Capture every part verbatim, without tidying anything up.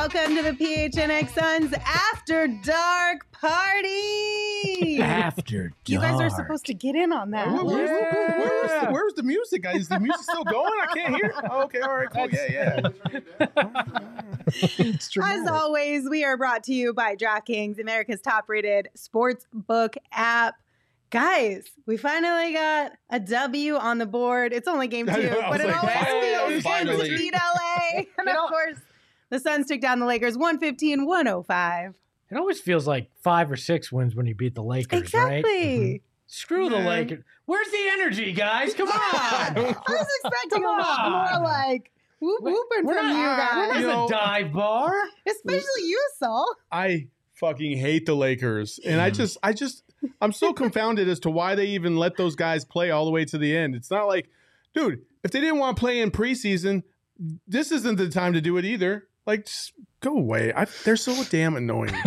Welcome to the P H N X Suns After Dark Party. After Dark. You guys are supposed to get in on that. Where, where's, the, where's, the, where's the music, guys? Is the music still going? I can't hear it. Oh, okay, all right, cool. Yeah, yeah. As always, we are brought to you by DraftKings, America's top-rated sports book app. Guys, we finally got a W on the board. It's only game two, know, but it like, always hey, feels good finally. to beat L A. And of course, the Suns took down the Lakers one fifteen one oh five. It always feels like five or six wins when you beat the Lakers, Exactly. right? Mm-hmm. Screw the Yeah. Lakers. Where's the energy, guys? Come on. I was expecting a Come lot on. more like whoop whooping We're from not, you we're guys. not You know- the dive bar. Especially you, Saul. I fucking hate the Lakers, and I just, I just, I'm so confounded as to why they even let those guys play all the way to the end. It's not like, dude, if they didn't want to play in preseason, this isn't the time to do it either. Like, just go away. I, they're so damn annoying.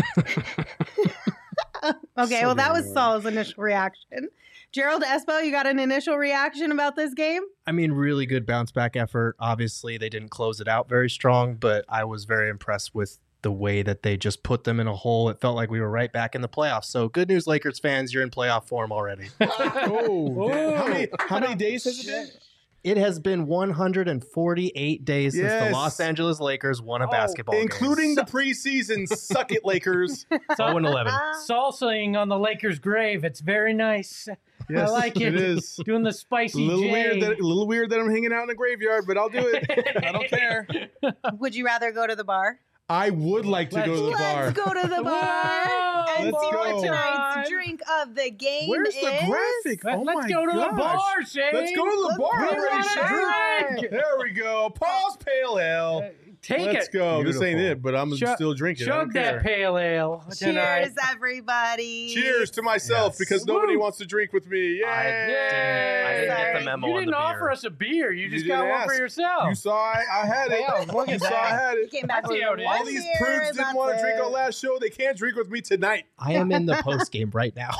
Okay, So well, that was annoying. Saul's initial reaction. Gerald Espo, you got an initial reaction about this game? I mean, really good bounce back effort. Obviously, they didn't close it out very strong, but I was very impressed with the way that they just put them in a hole. It felt like we were right back in the playoffs. So good news, Lakers fans, you're in playoff form already. Oh, damn. how many, how many days has it been? It has been one hundred forty-eight days since Yes. the Los Angeles Lakers won a basketball Including game. the preseason. Suck it, Lakers. oh and eleven. Salsaing on the Lakers' grave. It's very nice. Yes, I like it. It is. Doing the A spicy little J. weird that a little weird that I'm hanging out in a graveyard, but I'll do it. I don't care. Would you rather go to the bar? I would like to go to the bar. Let's go to the bar Whoa, and Let's see what go. tonight's drink of the game Where's is. the graphic? Let, Oh let's my go to gosh. the bar, Shane. Let's go to the Let's bar go. already, We Shane. want a drink. There we go. Paul's Pale Ale. Uh, Take Let's it. go. This ain't Beautiful. it, but I'm Chug- still drinking. I don't Chug care. that pale ale tonight. Cheers, everybody. Cheers to myself Yes. because Woo. nobody wants to drink with me. Yay! I didn't- I didn't get the memo You on didn't the offer beer. us a beer. You You just didn't got one ask. for yourself. You saw I, I had it. Yeah, look you at saw I that. had You it. came back That's with how it is. one All these beer, prudes and didn't want to that's drink it. on last show. They can't drink with me tonight. I am in the post game right now.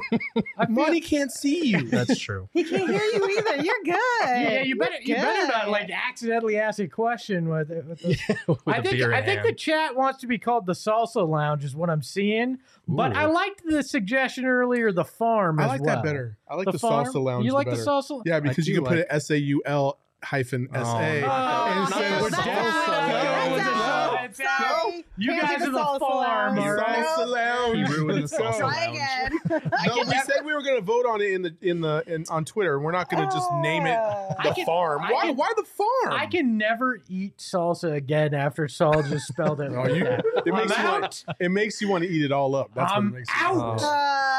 I feel- Money can't see you. That's true. He can't hear you either. You're good. Yeah, you better you You're better not good. like accidentally ask a question with it. With the, With I a think beer in I think hand. the chat wants to be called the Salsa Lounge is what I'm seeing. But Ooh. I liked the suggestion earlier, the farm. I as like well. that better. I like the, farm? salsa lounge. You like better. the salsa? Yeah, because you do can put like- it S A U L hyphen S A. Oh, instead no, of that's salsa. out. Go with That's the out. salsa. It's out. Sorry. You Can't guys do are the salsa farm, lounge. all right? Salsa lounge. He ruined the Let's go. salsa Try lounge. again. No, we said we were going to vote on it in the in the in, on Twitter. We're not going to just name it Oh. the I can- farm. I Why? can- why the farm? I can never eat salsa again after Saul just spelled it. No, like you- that. it makes I'm you out. want, it makes you want to eat it all up. That's I'm what it makes out. You Uh, want.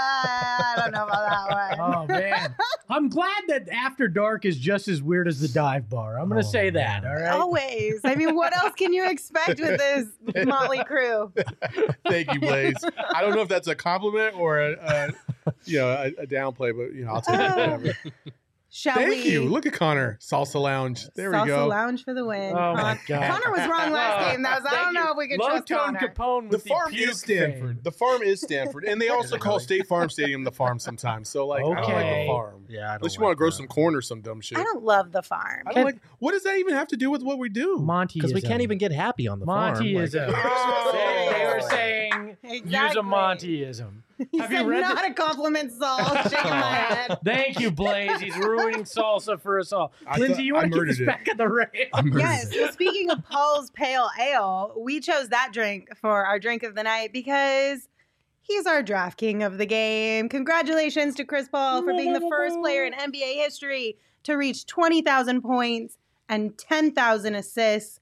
I don't know about that one. Oh man, I'm glad that After Dark is just as weird as the dive bar. I'm gonna Oh, say that. All right. Always. I mean, what else can you expect with this motley crew? Thank you, Blaze. I don't know if that's a compliment or a, a you know a, a downplay, but you know I'll take it. Whatever. Shall Thank we? you. Look at Connor. Salsa Lounge. There Salsa we go. Lounge for the win. Oh my Con- God. Connor was wrong last game. That was, I Thank don't you. know if we can Low trust tone Connor. Capone The with farm puke is Stanford. fame. The farm is Stanford, and they also call State Farm Stadium the farm sometimes. So like, I don't like Okay. the farm. Yeah, I don't Unless you like want to grow that. some corn or some dumb shit. I don't love the farm. I don't like. What does that even have to do with what we do? Monty, Because we can't even get happy on the farm. Monty is Like- a. Oh. They, they were saying use Exactly. a Montyism. He Have you said read not the- a compliment, Saul. Shaking my head. Thank you, Blaze. He's ruining salsa for us all. I Lindsay, thought- you I want to keep murdered this it. back at the rail? Yes. Well, speaking of Paul's Pale Ale, we chose that drink for our drink of the night because he's our draft king of the game. Congratulations to Chris Paul for being the first player in N B A history to reach twenty thousand points and ten thousand assists.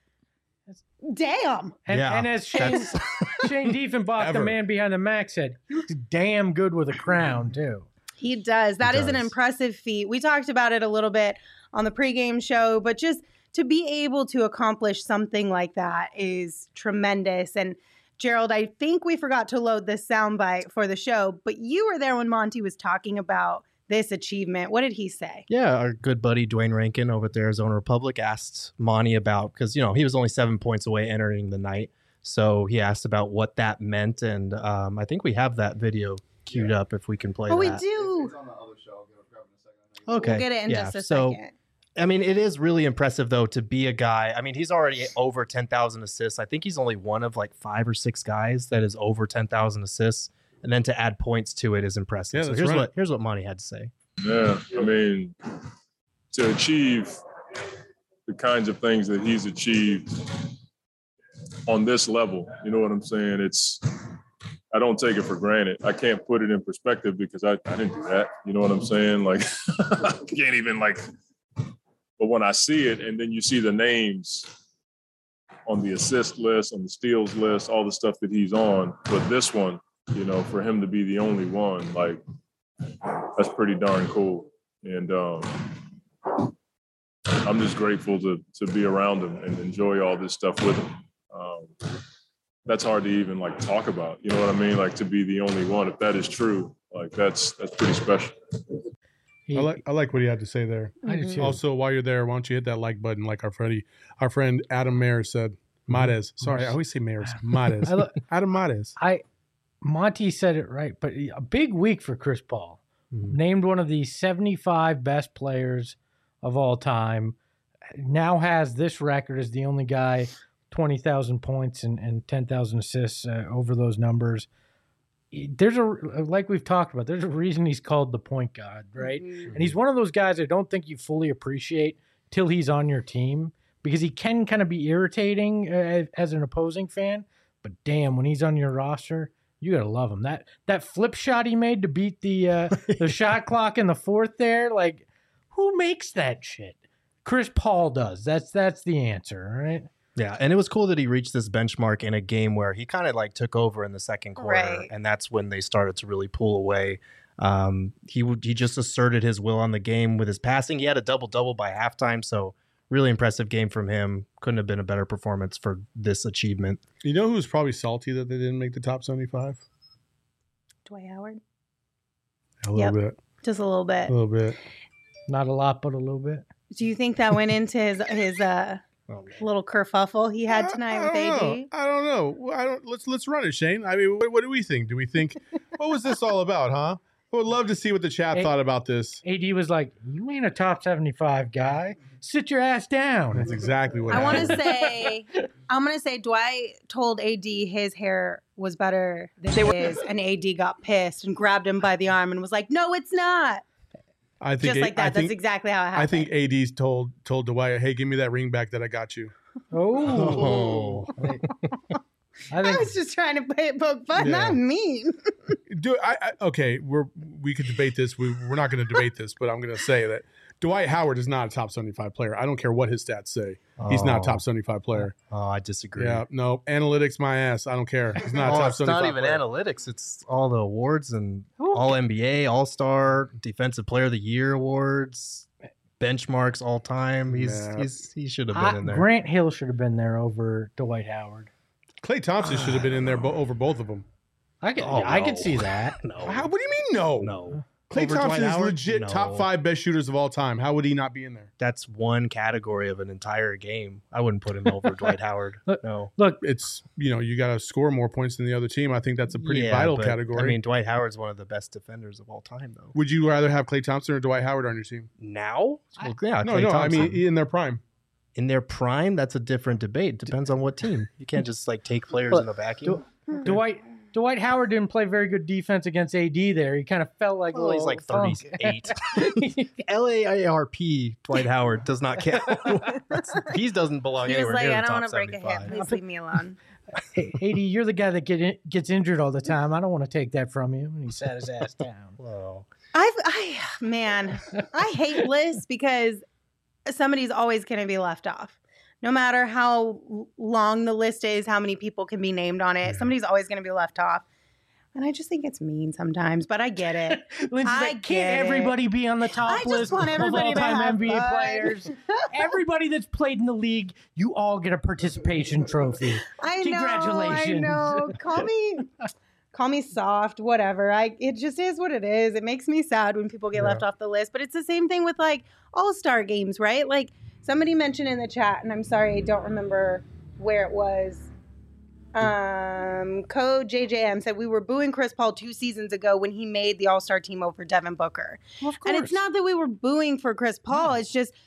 Damn. And, Yeah, and as Shane, that's- Shane Diefenbach, the Ever. man behind the Mac, said, he looks damn good with a crown, too. He does. That He is an does. impressive feat. We talked about it a little bit on the pregame show, but just to be able to accomplish something like that is tremendous. And Gerald, I think we forgot to load this soundbite for the show, but you were there when Monty was talking about this achievement. What did he say? Yeah, our good buddy Dwayne Rankin over at the Arizona Republic asked Monty about, because, you know, he was only seven points away entering the night. So he asked about what that meant. And um, I think we have that video queued up if we can play Oh, we that. do. It's on the other show. I'll get it in a second. Okay. We'll get it in yeah. just a so, second. I mean, it is really impressive, though, to be a guy. I mean, he's already over ten thousand assists. I think he's only one of like five or six guys that is over ten thousand assists. And then to add points to it is impressive. Yeah, so that's here's right. what here's what Monty had to say. Yeah, I mean, to achieve the kinds of things that he's achieved on this level, you know what I'm saying? It's, I don't take it for granted. I can't put it in perspective because I, I didn't do that. You know what I'm saying? Like, I can't even like, but when I see it and then you see the names on the assist list, on the steals list, all the stuff that he's on, but this one, you know, for him to be the only one, like, that's pretty darn cool. And um, I'm just grateful to to be around him and enjoy all this stuff with him. Um, that's hard to even like talk about. You know what I mean? Like to be the only one, if that is true, like that's that's pretty special. I like I like what he had to say there. I do too. Also, while you're there, why don't you hit that like button, like our Freddie, our friend Adam Mares said. Mares. Sorry, I always say Mares. Mares. I lo- Adam Mares. I Monty said it right, but a big week for Chris Paul. Mhm. Named one of the seventy-five best players of all time. Now has this record as the only guy twenty thousand points and, and ten thousand assists uh, over those numbers. There's a, like we've talked about, there's a reason he's called the point god, right? Mhm. And he's one of those guys I don't think you fully appreciate till he's on your team because he can kind of be irritating uh, as an opposing fan. But damn, when he's on your roster, you gotta love him. That that flip shot he made to beat the uh, the shot clock in the fourth there, like who makes that shit? Chris Paul does. That's that's the answer, right? Yeah, and it was cool that he reached this benchmark in a game where he kind of like took over in the second quarter, Right. and that's when they started to really pull away. Um, he would he just asserted his will on the game with his passing. He had a double double by halftime, so really impressive game from him. Couldn't have been a better performance for this achievement. You know who's probably salty that they didn't make the top seventy-five? Dwight Howard. A little Yep. bit. Just a little bit. A little bit. Not a lot, but a little bit. Do you think that went into his his uh little kerfuffle he had tonight with I A don't D? know. I don't know. Well, I don't. Let's let's run it, Shane. I mean, what, what do we think? Do we think what was this all about, huh? I would love to see what the chat Hey. thought about this. A D was like, "You ain't a top seventy-five guy. Sit your ass down." That's exactly what I want happened. to say, I'm going to say Dwight told A D his hair was better than his, and A D got pissed and grabbed him by the arm and was like, "No, it's not." I think Just A- like that. I That's think, exactly how it happened. I think A D's told told Dwight, "Hey, give me that ring back that I got you." Oh, I I think was just trying to play it poke fun, Yeah. not mean. Do I, I okay? We're we could debate this. We we're not going to debate this, but I'm going to say that Dwight Howard is not a top seventy-five player. I don't care what his stats say. He's not a Oh. top seventy-five player. Oh, I disagree. Yeah, no analytics, my ass. I don't care. He's not a Oh, top it's seventy-five not even player. analytics. It's all the awards and Who all N B A, All Star, Defensive Player of the Year awards, benchmarks all time. He's Yeah. he's he should have been I- in there. Grant Hill should have been there over Dwight Howard. Klay Thompson should have been in there bo- over both of them. I could, Oh, I could no. see that. No, How, what do you mean no? no. Klay Over Thompson Dwight is Howard? legit No. top five best shooters of all time. How would he not be in there? That's one category of an entire game. I wouldn't put him over Dwight Howard. Look, No. Look, It's you know you got to score more points than the other team. I think that's a pretty Yeah, vital but, category. I mean, Dwight Howard's one of the best defenders of all time, though. would you rather have Klay Thompson or Dwight Howard on your team? Now? Well, yeah, No, Klay no. I Thompson. mean, in their prime. in their prime, that's a different debate. Depends on what team. You can't just like take players Look, in a vacuum. Dwight Dwight Howard didn't play very good defense against A D there. He kind of felt like Well, he's a like little thirty-eight. punk. L A I R P Dwight Howard does not count. he doesn't belong He was anywhere like, near I the don't top want to break a hip. seventy-five. Please leave me alone. Hey, A D, you're the guy that get in, gets injured all the time. I don't want to take that from you. And he sat his ass down. Whoa. I've, I, man, I hate lists because somebody's always going to be left off. No matter how long the list is, how many people can be named on it, Yeah. somebody's always going to be left off. And I just think it's mean sometimes, but I get it. Lindsay's I like, get can't it. everybody be on the top I just list want of everybody to all-time have N B A fun. players? Everybody that's played in the league, you all get a participation trophy. I know. Congratulations. I know. Call me, call me soft, whatever. I. It just is what it is. It makes me sad when people get Yeah. left off the list. But it's the same thing with like all-star games, right? Like somebody mentioned in the chat, and I'm sorry, I don't remember where it was. Um, Code J J M said we were booing Chris Paul two seasons ago when he made the All-Star team over Devin Booker. Well, of And it's not that we were booing for Chris Paul. No. It's just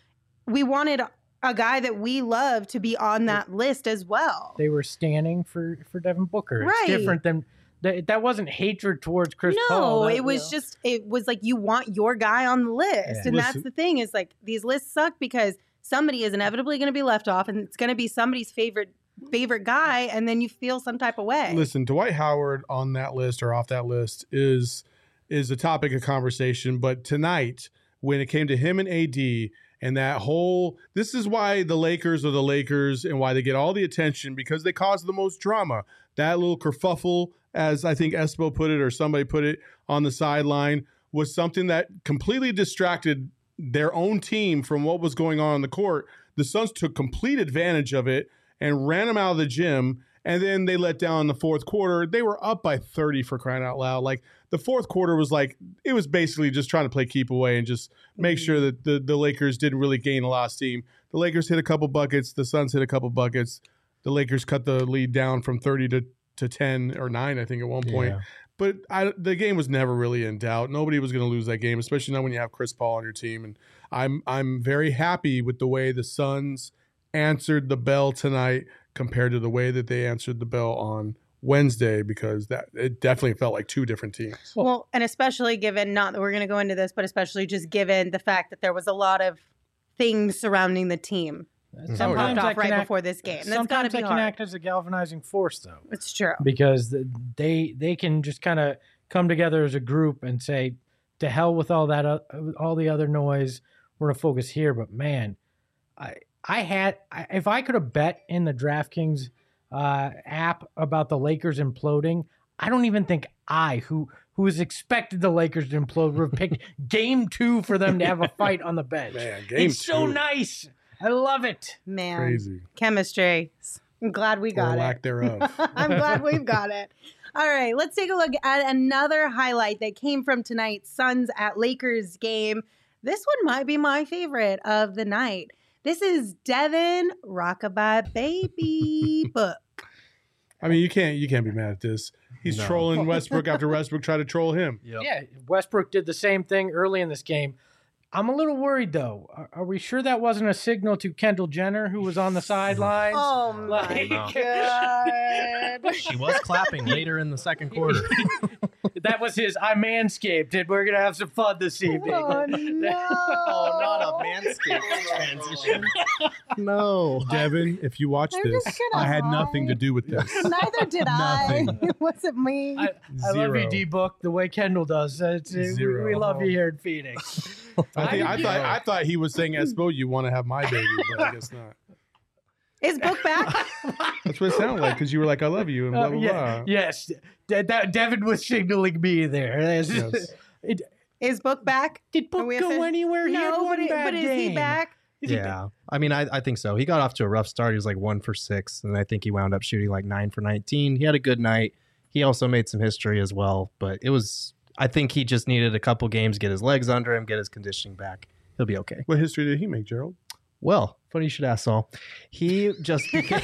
we wanted a guy that we love to be on that list as well. They were standing for for Devin Booker. It's Right. different than that. That wasn't hatred towards Chris no, Paul. That, it was you know. just it was like you want your guy on the list, Yeah. and that's Listen- the thing is like these lists suck because somebody is inevitably going to be left off, and it's going to be somebody's favorite favorite guy, and then you feel some type of way. Listen, Dwight Howard on that list or off that list is is a topic of conversation. But tonight, when it came to him and A D and that whole, this is why the Lakers are the Lakers and why they get all the attention, because they cause the most drama. That little kerfuffle, as I think Espo put it or somebody put it on the sideline, was something that completely distracted their own team from what was going on on the court. The Suns took complete advantage of it and ran them out of the gym. And then they let down in the fourth quarter. They were up by thirty for crying out loud. Like the fourth quarter was like, it was basically just trying to play keep away and just make sure that the, the Lakers didn't really gain a lot of steam. The Lakers hit a couple buckets. The Suns hit a couple buckets. The Lakers cut the lead down from thirty to, to ten or nine, I think, at one point. Yeah. But I, the game was never really in doubt. Nobody was going to lose that game, especially now when you have Chris Paul on your team. And I'm I'm very happy with the way the Suns answered the bell tonight compared to the way that they answered the bell on Wednesday, because that it definitely felt like two different teams. Well, and especially given, not that we're going to go into this, but especially just given the fact that there was a lot of things surrounding the team that Oh, yeah. popped that off right can act- before this game. That's got to sometimes be that can hard. act as a galvanizing force, though, It's true. because th- they they can just kind of come together as a group and say, "To hell with all that, uh, all the other noise. We're gonna focus here." But man, I I had I, if I could have bet in the DraftKings uh, app about the Lakers imploding, I don't even think I, who who was expected the Lakers to implode, would have picked Game Two for them to have a fight on the bench. Man, game it's so two. nice. I love it. Man, Crazy. chemistry. I'm glad we Or got lack it. thereof. I'm glad we've got it. All right, let's take a look at another highlight that came from tonight's Suns at Lakers game. This one might be my favorite of the night. This is Devin Rockabye Baby Book. I mean, you can't you can't be mad at this. He's No. trolling Westbrook after Westbrook tried to troll him. Yep. Yeah, Westbrook did the same thing early in this game. I'm a little worried, though. Are, are we sure that wasn't a signal to Kendall Jenner, who was on the sidelines? Oh my Like- No. God. She was clapping later in the second quarter. That was his, I manscaped it. We're going to have some fun this evening. Oh, no. Oh, not a Manscaped transition. No. Devin, if you watch I'm this, just gonna I had nothing to hide. do with this. Neither did I. Nothing. It wasn't me. I, I love you, Zero. D-Book, the way Kendall does. Uh, It's, we, Zero. we love you here in Phoenix. I, think, I I- thought I thought he was saying, Espo, you want to have my baby, but I guess not. Is Book back? That's what it sounded like, because you were like, I love you, and blah, Uh, blah, yeah, blah. yes, De- De- Devin was signaling me there. Yes. It, Is Book back? did Are Book we go offic- anywhere? He had No, one but, it- bad but is game. he back? Is he Yeah. I mean, I, I think so. He got off to a rough start. He was like one for six, and I think he wound up shooting like nine for nineteen. He had a good night. He also made some history as well, but it was, I think he just needed a couple games, get his legs under him, get his conditioning back. He'll be okay. What history did he make, Gerald? Well, funny you should ask, Saul. He just became.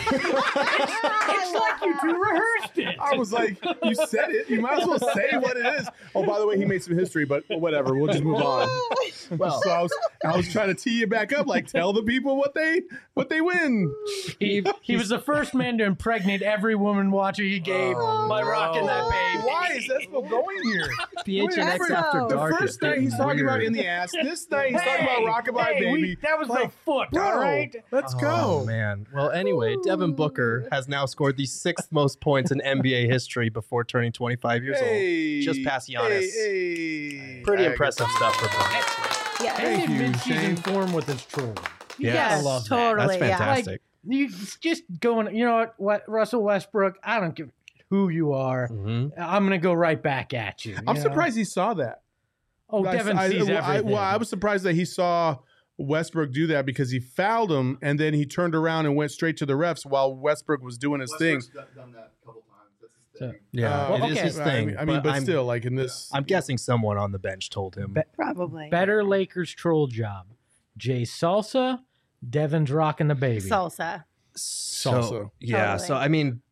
It's like you two rehearsed it. I was like, you said it. You might as well say what it is. Oh, by the way, he made some history, but whatever. We'll just move on. Well, So I was, I was trying to tee you back up, like tell the people what they what they win. He, he was the first man to impregnate every woman watching a game Oh, by rocking that baby. Why is Espo going here? P H N X Wait, After no. The Dark. first is night getting he's talking about weird. in the ass. This night he's talking Hey, about Rockabye hey, we- Baby. that was Like, the foot, bro, all right? let's Oh, go. man. Well, anyway, Devin Booker has now scored the sixth most points in N B A history before turning twenty-five years Hey, Just past Giannis. Hey, hey. Pretty I impressive guess- stuff for Booker. Yeah. Thank And you, in mid-season Shane. form with his trolling. You Yes. gotta Yes, love that. totally. That's yeah. fantastic. You it's just going, you know what, what, Russell Westbrook, I don't give who you are. Mhm. I'm going to go right back at you. I'm you know? surprised he saw that. Oh, I- Devin I, sees I, everything. well, I was surprised that he saw Westbrook do that because he fouled him and then he turned around and went straight to the refs while Westbrook was doing his thing. Westbrook's done that a couple times. That's his So- thing. Yeah, Uh, it is okay. his I thing. mean, I mean, but, I'm, still, like in this, I'm guessing someone on the bench told him. Be- Probably. Better Lakers troll job. Jay Salsa, Devin's rocking the baby. Salsa. So, Salsa. yeah. Totally. So I mean,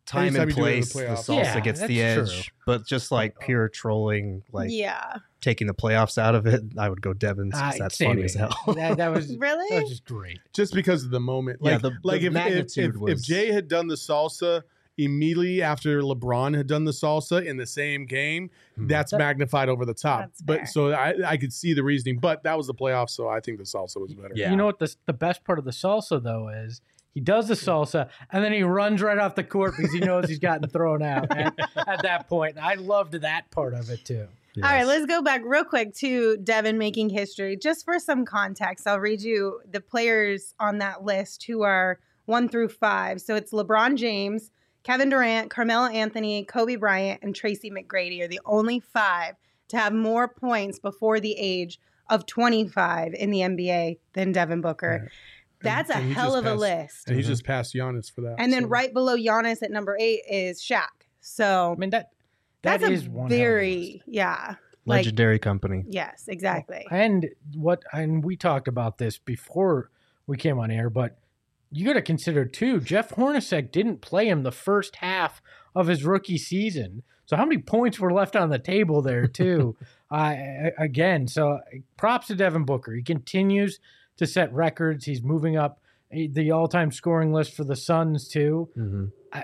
time Anytime and you do it in the place, the, playoffs. salsa Yeah, gets the that's edge. true. But just like pure trolling, like yeah. taking the playoffs out of it, I would go Devon's because Ah, that's same funny as here. hell. That, that was Really? That was just great. Just because of the moment. Yeah, Like, the- the like if, if, magnitude if, if was- Jay had done the salsa immediately after LeBron had done the salsa in the same game, Hmm. that's That- magnified over the top. That's fair. But so I, I could see the reasoning, but that was the playoffs, so I think the salsa was better. Yeah. You know what the the best part of the salsa though is he does the salsa and then he runs right off the court because he knows he's gotten thrown out at, at that point. I loved that part of it too. All right, Yes. let's go back real quick to Devin making history. Just for some context, I'll read you the players on that list who are one through five. So it's LeBron James, Kevin Durant, Carmelo Anthony, Kobe Bryant, and Tracy McGrady are the only five to have more points before the age of twenty-five in the N B A than Devin Booker. Right. That's And- a and he hell just of a passed- list. And he Mhm. just passed Giannis for that. And then so. right below Giannis at number eight is Shaq. So I mean that that that's is a one hell of a list. very, yeah. Like, Legendary company. yes, exactly. And what and we talked about this before we came on air, but you got to consider too. Jeff Hornacek didn't play him the first half of his rookie season, so how many points were left on the table there too? uh, again, so props to Devin Booker. He continues to set records. He's moving up the all-time scoring list for the Suns too. Mm-hmm.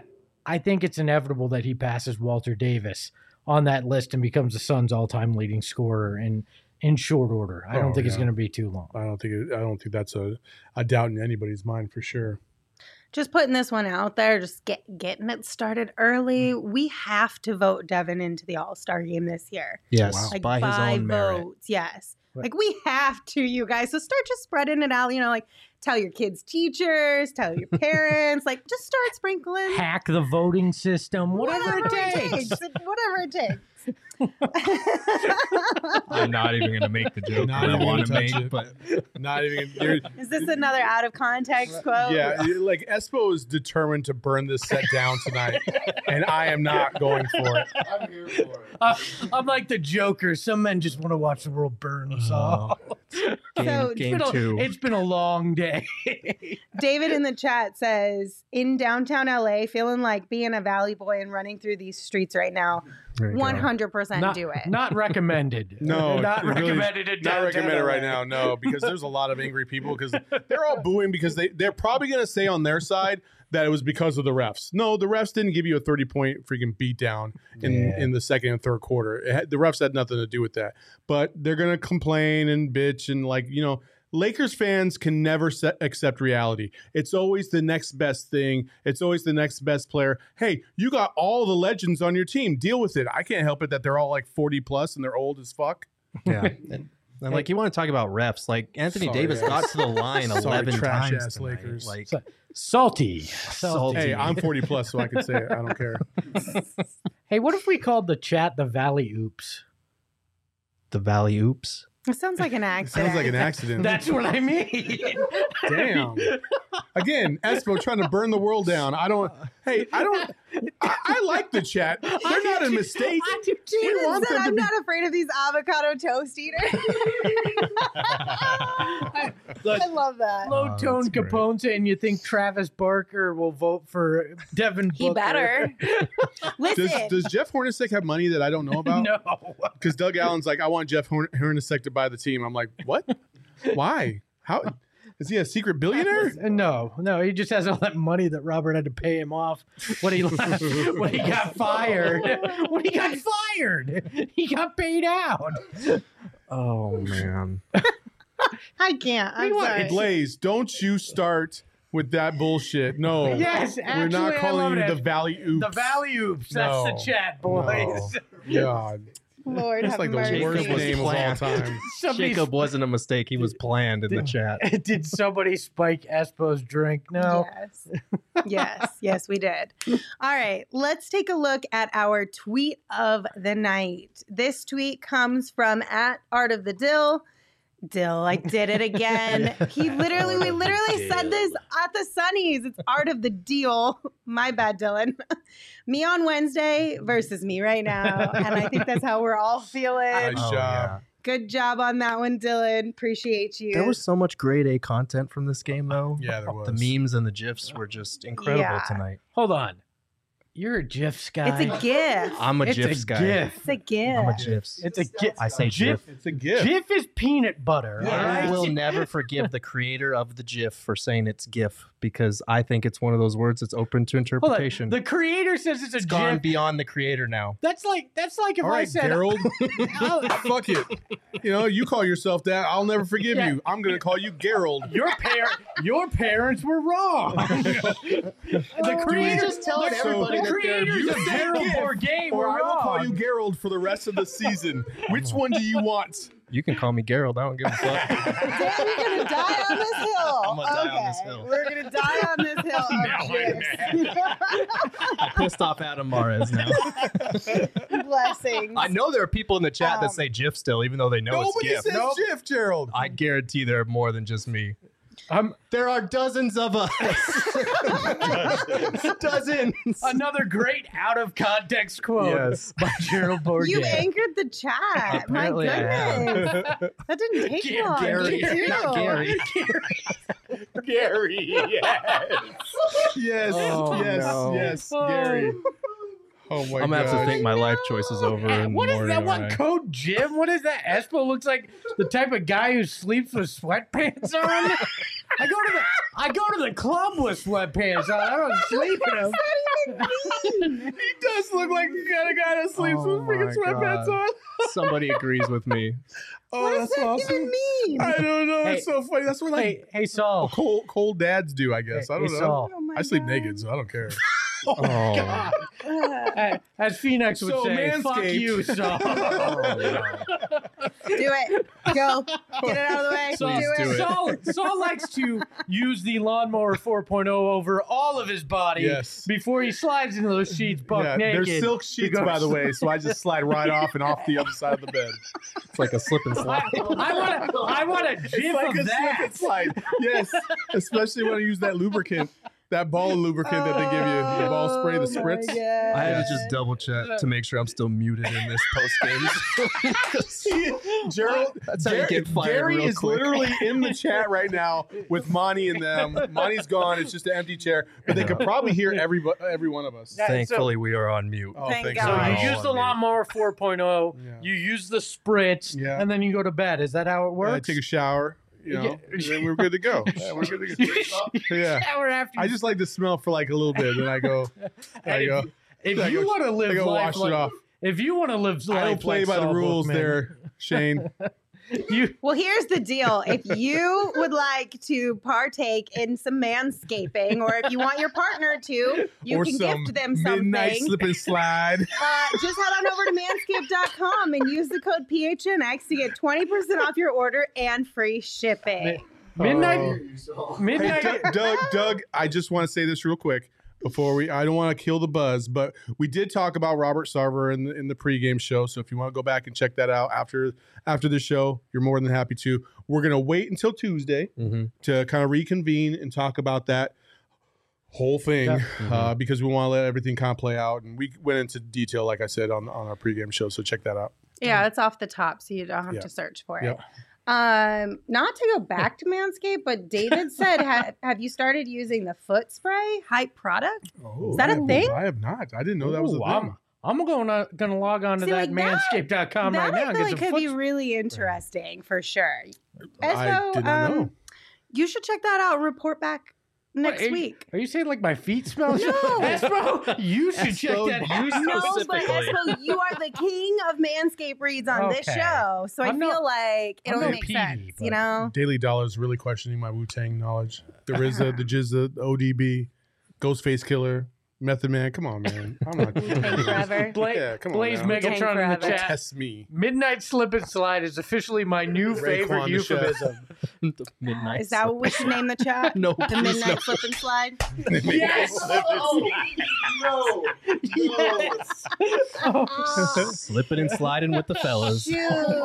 I think it's inevitable that he passes Walter Davis on that list and becomes the Suns' all-time leading scorer in in short order. I don't Oh, think it's yeah. going to be too long. I don't think it, I don't think that's a, a doubt in anybody's mind for sure. Just putting this one out there, just get getting it started early. We have to vote Devin into the All Star game this year. Yes, Wow. Like by his by own merit. votes, yes. Right. Like we have to, you guys. So start just spreading it out. You know, like tell your kids' teachers, tell your parents. Like just start sprinkling. Hack the voting system, whatever, it takes. Whatever it takes. I'm not even going to make the joke Not that I even want to gonna make, touch it. but Not even. You're, Is this another out of context quote? yeah, you- like Espo is determined to burn this set down tonight, and I am not going for it. I'm here for it. Uh, I'm like the Joker. Some men just want to watch the world burn. So Oh. Game, So, it's game been, a, two. it's been a long day. David in the chat says, in downtown L A, feeling like being a Valley boy and running through these streets right now. There you go. one hundred percent not, do it. not recommended. No, not it really- recommended. in Not downtown recommended right L A. now, no, because there's a lot of angry people because they're all booing because they they're probably going to say on their side that it was because of the refs. No, the refs didn't give you a thirty point freaking beat down in Yeah. in the second and third quarter. It had, the refs had nothing to do with that. But they're going to complain and bitch and like, you know, Lakers fans can never set, accept reality. It's always the next best thing. It's always the next best player. Hey, you got all the legends on your team. Deal with it. I can't help it that they're all like forty plus and they're old as fuck. Yeah. And, and like you want to talk about refs, like Anthony Sorry, Davis ass. got to the line Sorry, eleven trash times ass tonight. Lakers. Like So- Salty. Salty. Hey, I'm forty plus, so I can say it. I don't care. Hey, what if we called the chat the Valley Oops? the Valley Oops. It sounds like an accident. Sounds like an accident. That's what I mean. Damn. Again, Espo trying to burn the world down. I don't. Hey, I don't. I, I like the chat. They're not a mistake. I do too. We David want said, them to I'm be- not afraid of these avocado toast eaters. Look, I love that. low Oh, tone that's great. Caponte, and you think Travis Barker will vote for Devin Booker? He better. Does, Listen, does Jeff Hornacek have money that I don't know about? No. Because Doug Allen's like, I want Jeff Horn- Hornacek to buy the team. I'm like, what? Why? How? Is he a secret billionaire? No, no, he just has all that money that Robert had to pay him off when he left, when he got fired. When he got fired, he got paid out. Oh man. I can't. I'm Meanwhile, sorry. Blaze, don't you start with that bullshit. No. Yes, We're not actually, I calling love you it. the Valley Oops. The Valley Oops. That's the No. chat, boys. God. Lord That's have like the mercy. worst was name of all planned. time. Somebody, Jacob wasn't a mistake. He was planned in the chat. did somebody spike Espo's drink? No. Yes. Yes. Yes, we did. All right. Let's take a look at our tweet of the night. This tweet comes from at Art of the Dill. Dill, I did it again. He literally, we literally said this at the Sunnies. It's Art of the Deal. My bad, Dylan. Me on Wednesday versus me right now. And I think that's how we're all feeling. Nice Oh, job. Good job on that one, Dylan. Appreciate you. There was so much grade A content from this game, though. Yeah, there was. The memes and the gifs were just incredible Yeah. tonight. Hold on. You're a GIFs guy. It's a GIF. I'm a It's GIFs a guy. GIF. It's a GIF. I'm a GIFs. It's a GIF. I say GIF. GIF. It's a gift. GIF is peanut butter. all I right? will never forgive the creator of the GIF for saying it's GIF because I think it's one of those words that's open to Hold on. interpretation. The creator says it's a It's gone GIF. beyond the creator now. That's like that's like if All I right, said Gerald. Fuck it. You know, you call yourself that. I'll never forgive Yeah. you. I'm going to call you Gerald. your par- your parents were wrong. the creator just telling So- everybody the that they're creators you of say Gerald GIF, Bourget Or were I will call wrong. you Gerald for the rest of the season. Which one do you want? You can call me Gerald. I don't give a fuck. Dan, you're gonna die on this hill. I'm gonna die okay. on this hill. We're gonna die on this hill. of GIFs. I pissed off Adam Mares now. Blessings. I know there are people in the chat Um, that say GIF still, even though they know Nobody it's says GIF. GIF, Gerald. I guarantee there are more than just me. Um, There are dozens of us. dozens. another great out of context quote Yes. by Gerald Bourget. You anchored the chat. Apparently I My have. goodness. That didn't take Gary- long. Gary, did you? not Gary. Gary, yes. Yes, Oh, yes, no. yes, Oh. Gary. Oh my god. I'm gonna have to think my life choices over in What the is morning. that one alright? code, Jim? What is that? Espo looks like the type of guy who sleeps with sweatpants on. I go to the I go to the club with sweatpants on. I don't sleep in them. He does look like the kind of guy that sleeps Oh with freaking my sweatpants God. on. Somebody agrees with me. Oh, What does that's that awesome. even mean? I don't know. Hey. It's so funny. That's what like Hey, hey, Saul. cold cold dads do, I guess. Hey, I don't hey, know. Saul. Oh my I sleep God. naked, so I don't care. Oh, Oh. God. Uh, Uh, As Phoenix would So, say, fuck Manscaped. you, Saul. do it. Go. Get it out of the way. Saul, do do it. it. Saul, Saul likes to use the lawnmower four point oh over all of his body Yes. before he slides into those sheets buck Yeah, naked. they're silk sheets, Because- by the way, so I just slide right off and off the other side of the bed. It's like a slip and I, slide. I want a, I want a It's gif like of a slip that. and slide. Yes, especially when I use that lubricant, that ball lubricant that they give you, the ball spray, the Oh, spritz. my I had to God. just double check to make sure I'm still muted in this post game. Gerald, That's how you Gary, get fired Gary real is quick. literally in the chat right now with Monty and them. Monty's gone; it's just an empty chair, but they could probably hear every every one of us. Yeah. Thankfully, we are on mute. Oh, Thank thank So God. you Oh, use the dude. lawnmower four point oh, Yeah. you use the spritz, Yeah. and then you go to bed. Is that how it Yeah, I works? take a shower, you know, Yeah. and then we're good to go. Yeah, we're good to go. Yeah. Shower after. I you- just like to smell for like a little bit, then I go. and I go. If, if I you go- want to I live go life wash like, it off. if you want to live life I don't play like by the Saul rules Bookman, there, Shane. You Well, here's the deal. If you would like to partake in some manscaping, or if you want your partner to, you or can some gift them midnight something. slip and slide. Uh, just head on over to manscaped dot com and use the code P H N X to get twenty percent off your order and free shipping. midnight, Oh. Hey, midnight. Doug, Doug, Doug, I just want to say this real quick before we. I don't want to kill the buzz, but we did talk about Robert Sarver in the, in the pregame show. So if you want to go back and check that out after after the show, you're more than happy to. We're gonna wait until Tuesday Mm-hmm. to kind of reconvene and talk about that whole thing Yeah. uh, because we want to let everything kind of play out. And we went into detail, like I said, on on our pregame show. So check that out. Yeah, it's off the top, so you don't have Yeah. to search for Yeah. it. Um, not to go back to Manscaped, but David said, ha- "Have you started using the foot spray hype product?" Oh, Is that a I have- thing? I have not. I didn't know that was a Ooh, thing. I'm, I'm gonna gonna log on to See, that like that- manscaped dot com that right now I and feel get like some could be foot. really interesting for sure. I Espo, did not um, know. You should check that out and report back next Wait, week. Are you saying like my feet smell? No. Espo, you should check Espo, that you out. No, but specifically. Espo, you are the king of Manscaped reads on this Okay. show, so I I'm feel not- like it I'm only no makes P D, sense, but- you know. Daily Dollar is really questioning my Wu Tang knowledge. The R Z A, the Jizza, the O D B, Ghostface Killer, Method Man. Come on, man. I'm not. Wu-Tang forever. Bla- Yeah, come on Blaze now. Wu-Tang Megatron in the forever. chat. Test me. Midnight slip and slide is officially my new Raekwon favorite the chef. euphemism. The midnight. Is that what we should name the chat? No, The please midnight no. slip and slide. Yes. Oh, no. Yes. Oh, Slipping and sliding with the fellas. shoot.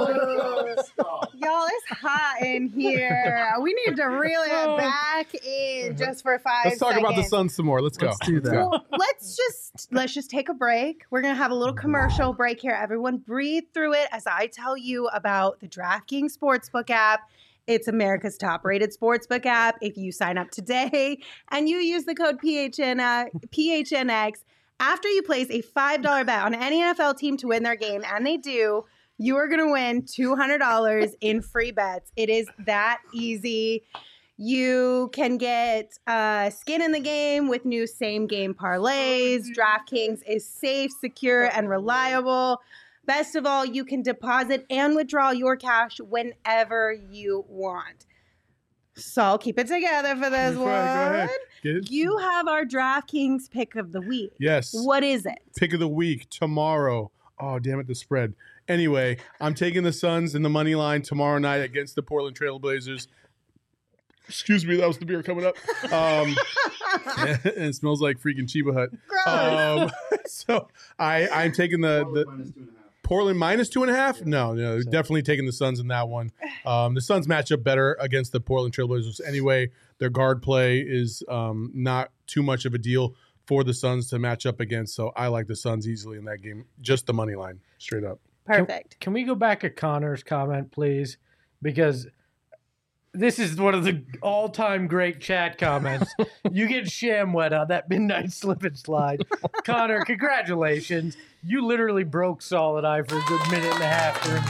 Y'all, it's hot in here. We need to reel it back in just for five Let's talk seconds. about the sun some more. Let's go. Let's do that. Well, let's just let's just take a break. We're gonna have a little commercial break here. Everyone, breathe through it as I tell you about the DraftKings Sportsbook app. It's America's top-rated sportsbook app. If you sign up today and you use the code P H N uh, P H N X After you place a five dollar bet on any N F L team to win their game, and they do, you are going to win two hundred dollars in free bets. It is that easy. You can get uh, skin in the game with new same game parlays. DraftKings is safe, secure, and reliable. Best of all, you can deposit and withdraw your cash whenever you want. So I'll keep it together for this Go one. ahead, Get it? You have our DraftKings pick of the week. Yes. What is it? Pick of the week tomorrow. Oh, damn it, the spread. Anyway, I'm taking the Suns in the money line tomorrow night against the Portland Trail Blazers. Excuse me, that was the beer coming up. Um, and it smells like freaking Chiba Hut. Gross. Um, so I, I'm taking the, the Portland minus two and a half. No, no, definitely taking the Suns in that one. Um, the Suns match up better against the Portland Trail Blazers anyway. Their guard play is um, not too much of a deal for the Suns to match up against. So I like the Suns easily in that game. Just the money line, straight up. Perfect. Can we go back to Connor's comment, please? Because this is one of the all-time great chat comments. You get sham wet on that midnight slip and slide. Connor, congratulations. You literally broke Solid Eye for a good minute and a half during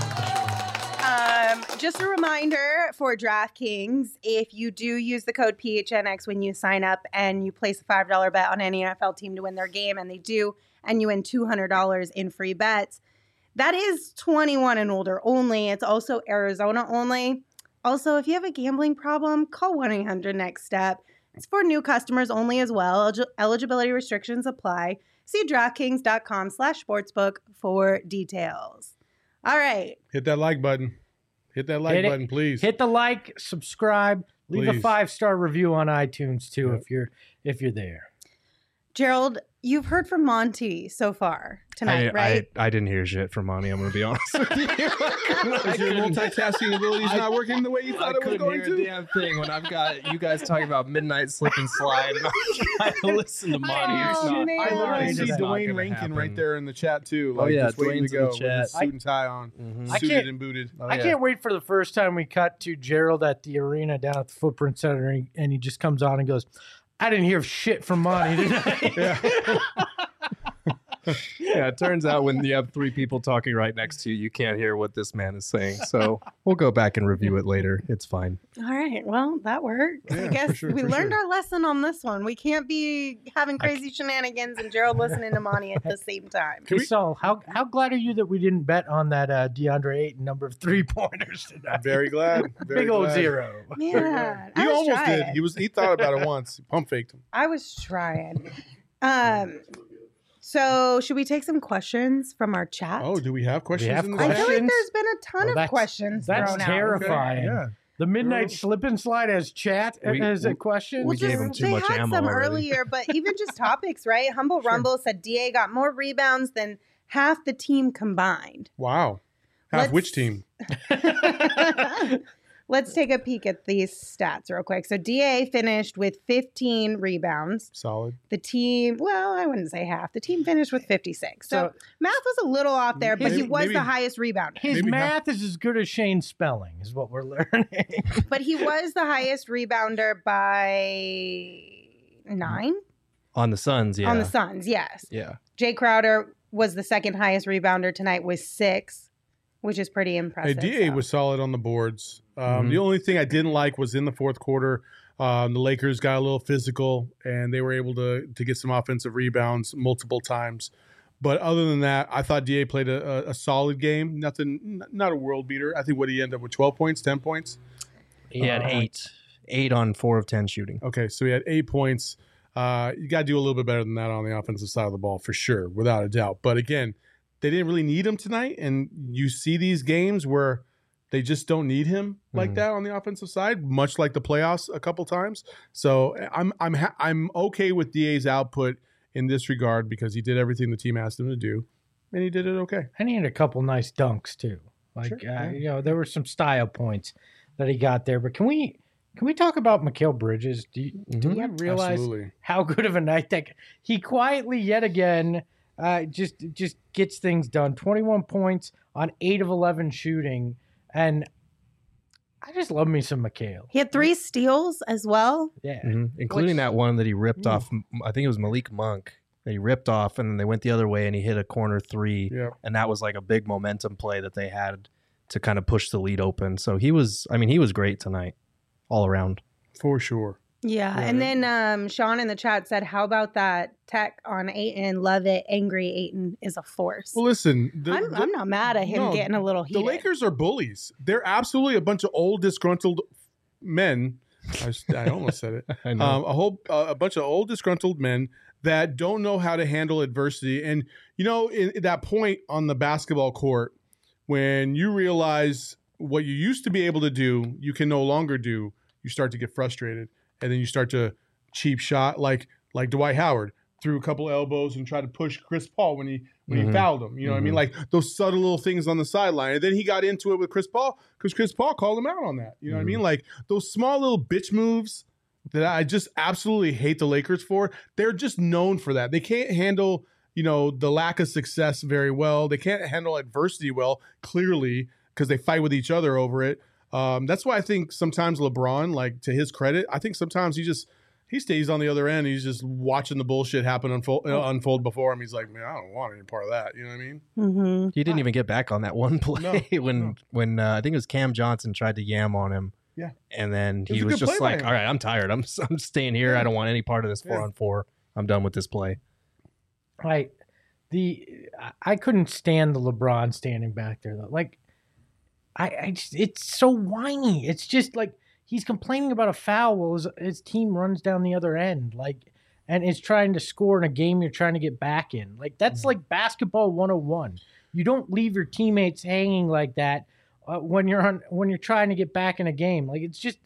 the Um, just a reminder for DraftKings, if you do use the code P H N X when you sign up and you place a five dollar bet on any N F L team to win their game, and they do, and you win two hundred dollars in free bets, that is twenty-one and older only. It's also Arizona only. Also, if you have a gambling problem, call one eight hundred next step. It's for new customers only as well. Elig- eligibility restrictions apply. See DraftKings.com slash sportsbook for details. All right. Hit that like button. Hit that like Hit it. button, please. Hit the like, subscribe, leave a Please. five-star review on iTunes too Yep. if you're if you're there. Gerald, you've heard from Monty so far tonight, I, right? I, I didn't hear shit from Monty. I'm going to be honest with you. Is your multitasking abilities not working the way you I thought it was couldn't going hear to? a damn thing when I've got you guys talking about midnight slip and slide. And I'm trying to listen to Monty. Oh, It's not- man. I literally It's see not Dwayne gonna Rankin happen. right there in the chat too. Oh, Like, yeah, just waiting Dwayne's to in go the chat. with his suit and tie on, Mhm. I suited can't- and booted. Oh, I yeah. can't wait for the first time we cut to Gerald at the arena down at the Footprint Center, and he, and he just comes on and goes, "I didn't hear shit from Monty tonight." Yeah. Yeah, it turns out when you have three people talking right next to you, you can't hear what this man is saying. So we'll go back and review it later. It's fine. All right. Well, that worked. Yeah, I for guess sure, we for learned sure. our lesson on this one. We can't be having crazy shenanigans and Gerald listening to Monty at the same time. Hey, Saul, how how glad are you that we didn't bet on that uh, DeAndre Ayton number of three pointers tonight? Very glad. Very Big old glad. zero. Man, He I was almost trying. did. He was. He thought about it once. He pump faked him. I was trying. Um. So, should we take some questions from our chat? Oh, do we have questions have in the I chat? feel like questions? there's been a ton Well, of that's- questions that's thrown out. terrifying. Yeah. The midnight slip and slide as chat We- as a we- question. we Well, gave just- him too they much had ammo some already. earlier, but even just topics, right? Humble Rumble said D A got more rebounds than half the team combined. Wow. Half Let's- which team? Let's take a peek at these stats real quick. So D A finished with fifteen rebounds. Solid. The team, well, I wouldn't say half. The team finished with fifty-six. So, So- math was a little off there, but he Maybe- was maybe- the highest rebounder. His Maybe not. math is as good as Shane's spelling, is what we're learning. But he was the highest rebounder by nine On the Suns, yeah. on the Suns, yes. Yeah. Jay Crowder was the second highest rebounder tonight with six, which is pretty Hey, impressive. D A so. was solid on the boards. Um, Mhm. The only thing I didn't like was in the fourth quarter, um, the Lakers got a little physical and they were able to to get some offensive rebounds multiple times. But other than that, I thought D A played a, a, a solid game. Nothing, n- not a world beater. I think what he ended up with twelve points, ten points. He had Uh, eight. Eight on four of ten shooting. Okay, so he had eight points. Uh, you got to do a little bit better than that on the offensive side of the ball for sure, without a doubt. But again, they didn't really need him tonight, and you see these games where they just don't need him like Mhm. that on the offensive side, much like the playoffs a couple times. So I'm I'm ha- I'm okay with D A's output in this regard because he did everything the team asked him to do, and he did it okay. And he had a couple nice dunks too. Like Sure, uh, yeah. you know, there were some style points that he got there. But can we can we talk about Mikal Bridges? Do you, do Mhm. you realize Absolutely. how good of a night that he quietly yet again uh, just just gets things done? twenty-one points on eight of eleven shooting, and I just love me some Mikal. He had three steals as well. Yeah, Mhm. Including Which- that one that he ripped Mm. off. I think it was Malik Monk. that he ripped off, and then they went the other way and he hit a corner three. Yep. And that was like a big momentum play that they had to kind of push the lead open. So he was, I mean, he was great tonight all around. For sure. Yeah. Yeah. And then um, Sean in the chat said, how about that tech on Ayton? Love it. Angry Ayton is a force. Well, listen, the, I'm, the- I'm not mad at him no, getting a little the heated. Lakers are bullies. They're absolutely a bunch of old disgruntled men. I, s- I almost said it. I know. Um, a whole uh, a bunch of old disgruntled men that don't know how to handle adversity. And you know, in, in that point on the basketball court, when you realize what you used to be able to do, you can no longer do. You start to get frustrated, and then you start to cheap shot like like Dwight Howard threw a couple elbows and tried to push Chris Paul when he when Mhm. he fouled him. You know what I mean? Mhm. Like those subtle little things on the sideline. And then he got into it with Chris Paul because Chris Paul called him out on that. You know what I mean? Like those small little bitch moves that I just absolutely hate the Lakers for. They're just known for that. They can't handle, you know, the lack of success very well. They can't handle adversity well, clearly, because they fight with each other over it. Um, that's why I think sometimes LeBron, like to his credit, I think sometimes he just he stays on the other end. He's just watching the bullshit happen unfold, uh, unfold before him. He's like, man, I don't want any part of that. You know what I mean? Mm-hmm. He didn't even get back on that one play No, when no. when uh, I think it was Cam Johnson tried to yam on him. Yeah. And then was he a was good play just by like, him. all right, I'm tired. I'm I'm staying here. Yeah. I don't want any part of this four Yeah. on four. I'm done with this play. Like the I- I couldn't stand the LeBron standing back there though. Like I, I just, it's so whiny. It's just like he's complaining about a foul while his, his team runs down the other end. Like and is trying to score in a game you're trying to get back in. Like that's like basketball one oh one. You don't leave your teammates hanging like that uh, when you're on when you're trying to get back in a game. Like it's just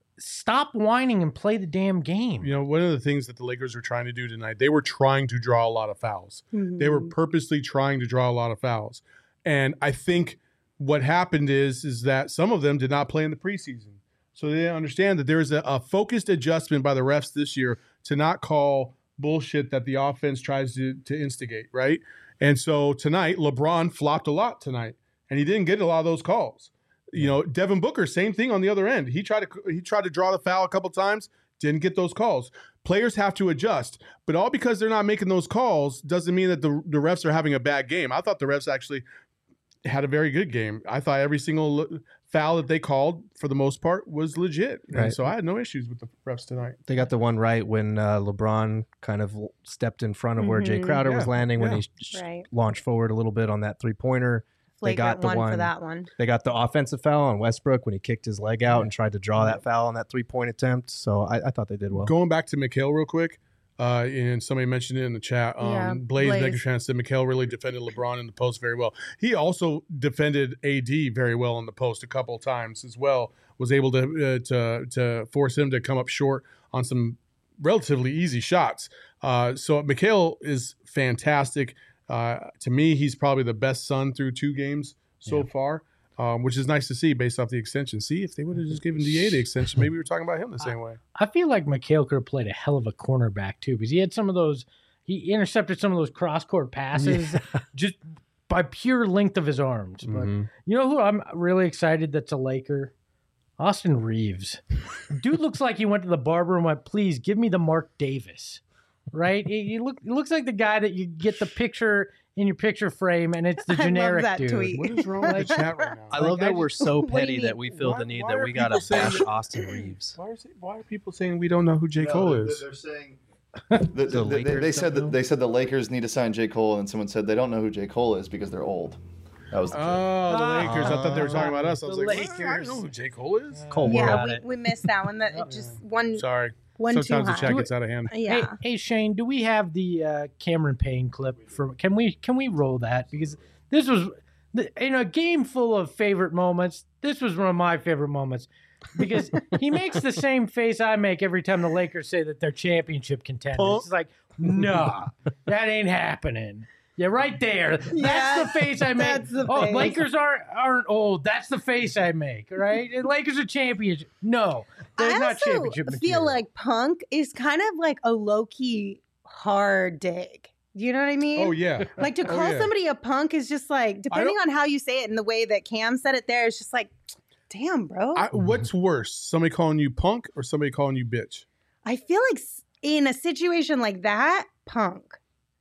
stop whining and play the damn game. You know, one of the things that the Lakers were trying to do tonight, they were trying to draw a lot of fouls. They were purposely trying to draw a lot of fouls. And I think what happened is, is that some of them did not play in the preseason. So they didn't understand that there is a, a focused adjustment by the refs this year to not call bullshit that the offense tries to, to instigate, right? And so tonight, LeBron flopped a lot tonight, and he didn't get a lot of those calls. You know, Devin Booker, same thing on the other end. He tried to he tried to draw the foul a couple times, didn't get those calls. Players have to adjust, but all because they're not making those calls doesn't mean that the the refs are having a bad game. I thought the refs actually had a very good game. I thought every single foul that they called, for the most part, was legit. And Right. so I had no issues with the refs tonight. They got the one right when uh, LeBron kind of stepped in front of where Jay Mhm. Crowder was Yeah, landing when yeah. he sh- Right. launched forward a little bit on that three pointer. They got Flagrant the one, for one- that one. They got the offensive foul on Westbrook when he kicked his leg out and tried to draw that foul on that three point attempt. So I, I thought they did well. Going back to Mikhail real quick, uh, and somebody mentioned it in the chat. Um, Yeah, Blaze Blaze. Megatron said Mikhail really defended LeBron in the post very well. He also defended A D very well in the post a couple of times as well. Was able to uh, to to force him to come up short on some relatively easy shots. Uh, so Mikhail is fantastic. Uh, to me, he's probably the best Sun through two games so Yeah. far. Um, which is nice to see based off the extension. See, if they would have just given D A the extension, maybe we were talking about him the same way. I feel like Mikhail could have played a hell of a cornerback too, because he had some of those. He intercepted some of those cross court passes just by pure length of his arms. But Mhm. you know who I'm really excited that's a Laker? Austin Reeves. Dude looks like he went to the barber and went, "Please give me the Mark Davis." Right? he, he look he looks like the guy that you get the picture in your picture frame, and it's the I love generic that dude. tweet. What is wrong with the chat right now? I love Like, I that we're so What do you petty that mean? we feel Why- the need why that are we got people to saying bash that- Austin Reeves. Why, is it, why are people saying we don't know who J. No, Cole they're- is? They're saying the, the, The they, they Lakers said don't know? that they said the Lakers need to sign J. Cole, and someone said they don't know who J. Cole is because they're old. That was the joke. Oh, the Lakers. I thought they were talking about us. I was The like, what? I Lakers. don't know who J. Cole is. Cole, we're Yeah, at we, it. we missed that one. That it just one Sorry. one too Sometimes the high. chat gets out of hand. Hey, Yeah. hey Shane, do we have the uh, Cameron Payne clip from? Can we can we roll that, because this was the- in a game full of favorite moments. This was one of my favorite moments because he makes the same face I make every time the Lakers say that they're championship contenders. It's like, nah, that ain't happening. Yeah, right there. That's Yeah, the face I make. that's the oh, face. Lakers aren't aren't old. That's the face I make. Right? And Lakers are championship. No, they're I not also championship feel material. like Punk is kind of like a low key hard dig. Do you know what I mean? Oh, yeah. Like to Oh, call yeah. somebody a punk is just like, depending on how you say it and the way that Cam said it there, it's just like, damn, bro. I, I, what's worse, somebody calling you punk or somebody calling you bitch? feel like s- in a situation like that, punk.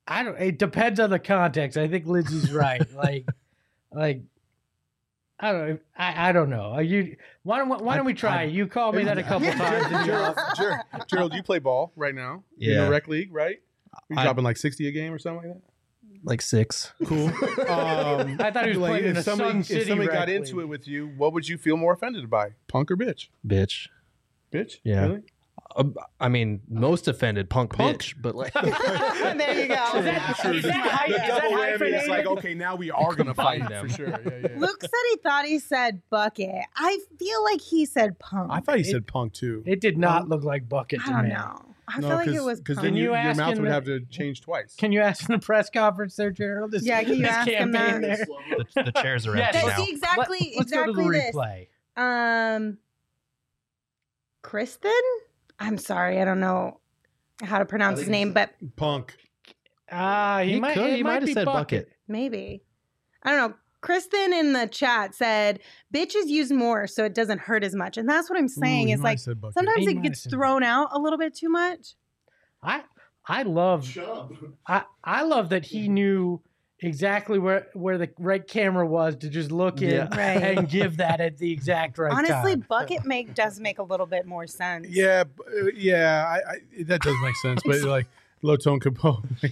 I don't. It depends on the context. I think Lindsay's right. Like, like. I don't know. I, I don't know. Are you why don't why don't we try? I- you called me that a couple times. in the Gerald, office. Gerald, Gerald, you play ball right now? In Yeah. the rec league, right? You're I- dropping like sixty a game or something like Like six. that? Cool. Um, I thought he was playing in if a somebody, Sun if City somebody got rec into league. it with you, what would you feel more offended by? Punk or bitch? Bitch. Bitch? Yeah. Really? Um, I mean, most offended punk, Punk. bitch, but like there you go. Is that, is that, hy- The is that double whammy is hyphenated? like, okay, now we are going to fight Combine them. for sure. Yeah, yeah. Luke said he thought he said bucket. I feel like he said punk. I thought he said punk too. It did not look like bucket I to don't me. know. I feel like it was because punk. then Can you, you your ask mouth him would that- have to change twice. Can you ask in the press conference there, Gerald? This, Yeah, can you this ask him campaign that? there? the, the chairs are Yes. empty That's now. exactly Let, let's exactly go to the this. replay. Um, Kristen. I'm sorry, I don't know how to pronounce his name, but Punk. Ah, he, He might. could. It He might might have be said bucket. maybe I don't know. Kristen in the chat said, "Bitches use more, so it doesn't hurt as much," and that's what I'm saying. Ooh, he Is might like have said bucket. sometimes He it might gets have said thrown out a little bit too much. I I love I I love that he knew exactly where where the right camera was to just look in Yeah. Right. and give that at the exact right Honestly, time. bucket make does make a little bit more sense. Yeah, b- uh, yeah, I, I, that does make sense. But like low tone component. I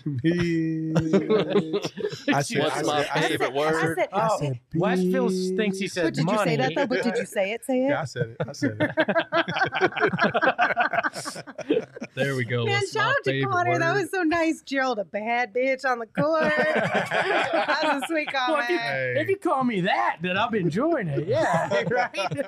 said, What's I my said, I said, favorite I word? said, Oh, I said, Westfield thinks he said but did money. you say that though? But did you say it? Say it. Yeah, I said it. I said it. There we go. Man, What's shout my out to favorite Connor. That word? was so nice. Gerald, a bad bitch on the court. That's a sweet Well, if, you, comment. Hey. if you call me that, then I'm enjoying it. Yeah, right.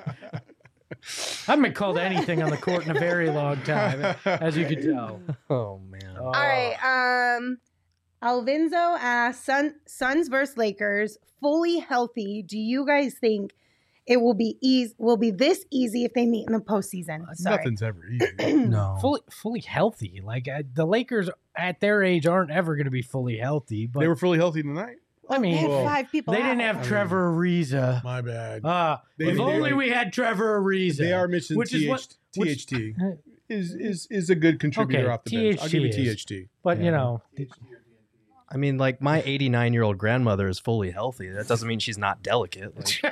I haven't been called anything on the court in a very long time, as you can tell. Oh man. Oh. All right. Um, Alvinzo asks, Sun, Suns versus Lakers, fully healthy. Do you guys think it will be easy? Will be this easy if they meet in the postseason? Sorry. Nothing's ever easy. No. fully fully healthy. Like uh, the Lakers at their age aren't ever going to be fully healthy. But They were fully healthy tonight. I They mean, had Whoa. five people. they didn't out. have Trevor Ariza. My bad. Ah, They- if they- only like- we had Trevor Ariza. They are mentioning which is what- T H T. which- is is is a good contributor Okay, off the bench. I'll give you T H T T is. H T. But Yeah. you know, I mean, like my eighty-nine year old grandmother is fully healthy. That doesn't mean she's not delicate. Like,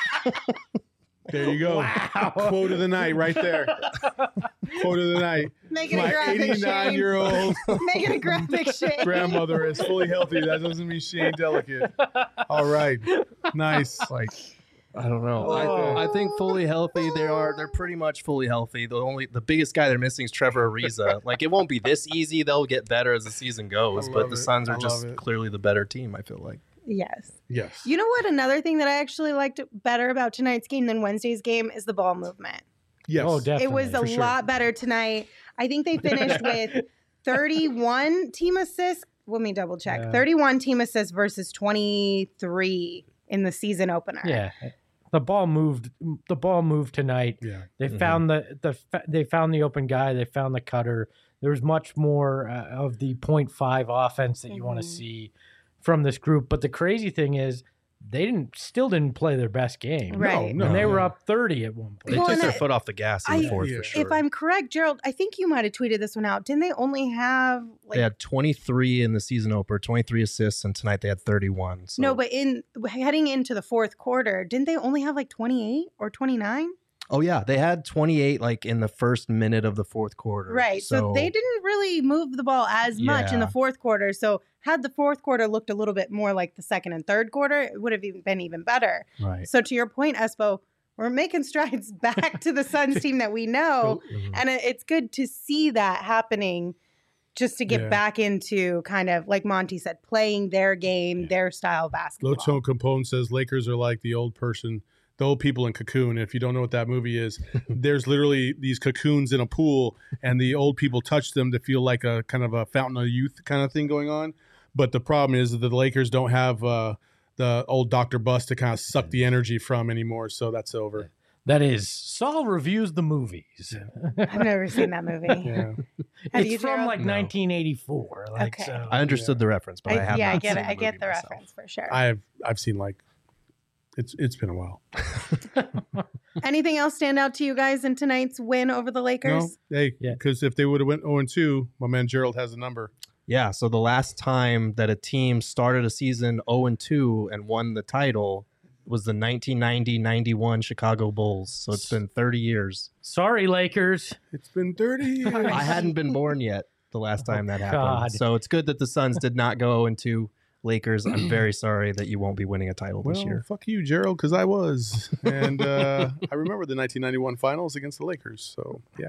There you go. Wow. Quote of the night right there. Quote of the night. Make it a My graphic eighty-nine shame. year old Make it a graphic shame. grandmother is fully healthy. That doesn't mean she ain't delicate. All right. Nice. like I don't know. Oh. I, I think fully healthy. They are. They're pretty much fully healthy. The only the biggest guy they're missing is Trevor Ariza. Like it won't be this easy. They'll get better as the season goes. I But love the it. Suns I are just love it. clearly the better team. I feel like. Yes. Yes. You know what? Another thing that I actually liked better about tonight's game than Wednesday's game is the ball movement. Yes. oh, definitely. It was a for sure. lot better tonight. I think they finished with thirty-one team assists. Let me double check. Yeah. thirty-one team assists versus twenty-three in the season opener. Yeah, the ball moved. The ball moved tonight. Yeah. They Mhm. found the the fa- they found the open guy. They found the cutter. There was much more uh, of the point five offense that you want Mhm. to see from this group. But the crazy thing is, they didn't still didn't play their best game. Right. No, and they no. were up thirty at one They point. Well, took and their I- foot off the gas in the I- fourth Yeah. for sure. If I'm correct, Gerald, I think you might have tweeted this one out. Didn't they only have like they had twenty-three in the season opener, twenty-three assists, and tonight they had thirty-one. So. no, but in heading into the fourth quarter, didn't they only have like twenty-eight or twenty-nine? oh yeah, they had twenty-eight like in the first minute of the fourth quarter. Right. So, they didn't really move the ball as much in the Yeah. fourth quarter. So had the fourth quarter looked a little bit more like the second and third quarter, it would have even been even better. Right. So to your point, Espo, we're making strides back to the Suns team that we know. Mhm. And it- it's good to see that happening just to get Yeah. back into kind of, like Monty said, playing their game, their style of basketball. Low Tone Capone says Lakers are like the old person, the old people in Cocoon. If you don't know what that movie is, there's literally these cocoons in a pool, and the old people touch them to feel like a kind of a fountain of youth kind of thing going on. But the problem is that the Lakers don't have uh, the old Doctor Bus to kind of suck the energy from anymore. So that's over. That is Saul reviews the movies. I've never seen that movie. Yeah. Have it's you, from Gerald? like No. nineteen eighty-four. Like Okay. so. I understood the reference, but I, I, have yeah, I not get seen it. I get movie the myself. reference for sure. I've I've seen like it's it's been a while. Anything else stand out to you guys in tonight's win over the Lakers? No, hey, Yeah. because if they would have went zero and two, my man Gerald has a number. Yeah, so the last time that a team started a season oh and two and won the title was the nineteen ninety ninety-one Chicago Bulls. So it's been thirty years. Sorry, Lakers. It's been thirty years. I hadn't been born yet the last time that happened. God. So it's good that the Suns did not go oh and two. Lakers, I'm very sorry that you won't be winning a title Well, this year. fuck you, Gerald, because I was. And uh, I remember the nineteen ninety-one finals against the Lakers. So, yeah.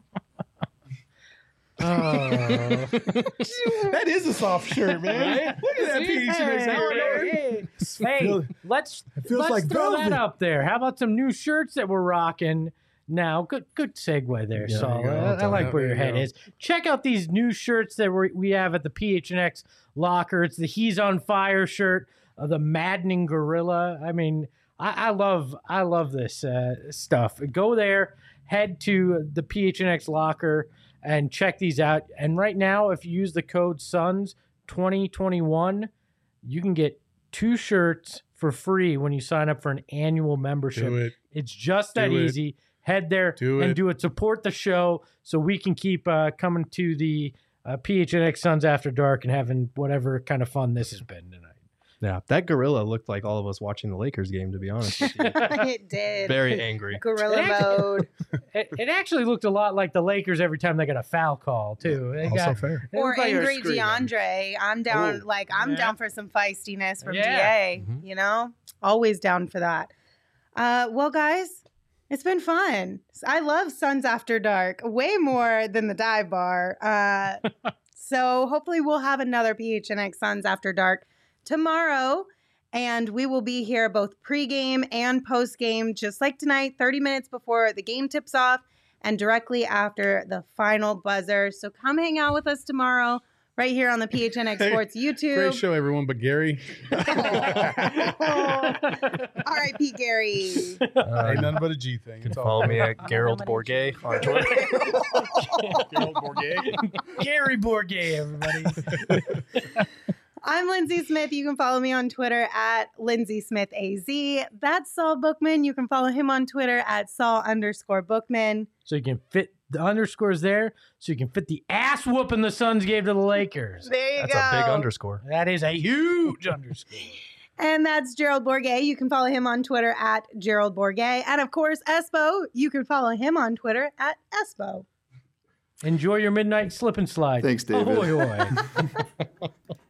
Oh. That is a soft shirt, man. Look at that P H N X Hey, outfit. hey, Feel- let's feels let's like throw velvet. that up there. How about some new shirts that we're rocking now? Good good segue there, Yeah, Saul. there you go. I, I like Yeah, where there your you head go. is. Check out these new shirts that we we have at the P H N X locker. It's the He's on Fire shirt, uh, the Maddening Gorilla. I mean, I, I love I love this uh, stuff. Go there, head to the P H N X locker and check these out. And right now, if you use the code SUNS twenty twenty-one, you can get two shirts for free when you sign up for an annual membership. Do it. It's just that Do it. easy. Head there Do and it. do it. Support the show so we can keep uh, coming to the uh, P H N X Suns After Dark and having whatever kind of fun this has been tonight. Yeah, that gorilla looked like all of us watching the Lakers game, to be honest with you. It did. Very angry. Gorilla mode. It, it actually looked a lot like the Lakers every time they got a foul call, too. They Also got, fair. it Or looked like they were angry screaming. DeAndre. I'm down. Ooh. Like I'm Yeah. down for some feistiness from Yeah. D A. Mhm. You know, always down for that. Uh, well, guys, it's been fun. I love Suns After Dark way more than the dive bar. Uh, so hopefully we'll have another P H N X Suns After Dark tomorrow. And we will be here both pregame and postgame, just like tonight, thirty minutes before the game tips off and directly after the final buzzer. So come hang out with us tomorrow right here on the P H N X Hey, Sports YouTube. Great show, everyone, but Gary. R I P Gary. Uh, Ain't nothing but a G thing. You can It's all follow me good. at Gerald Bourget on Twitter. Gerald Bourget. Gary Bourget, everybody. I'm Lindsay Smith. You can follow me on Twitter at Lindsay Smith A Z. That's Saul Bookman. You can follow him on Twitter at Saul underscore Bookman. So you can fit the underscores there, so you can fit the ass whooping the Suns gave to the Lakers. There you That's go. a big underscore. That is a huge underscore. And that's Gerald Bourget. You can follow him on Twitter at Gerald Bourget. And of course, Espo, you can follow him on Twitter at Espo. Enjoy your midnight slip and slide. Thanks, David. Ahoy, hoy.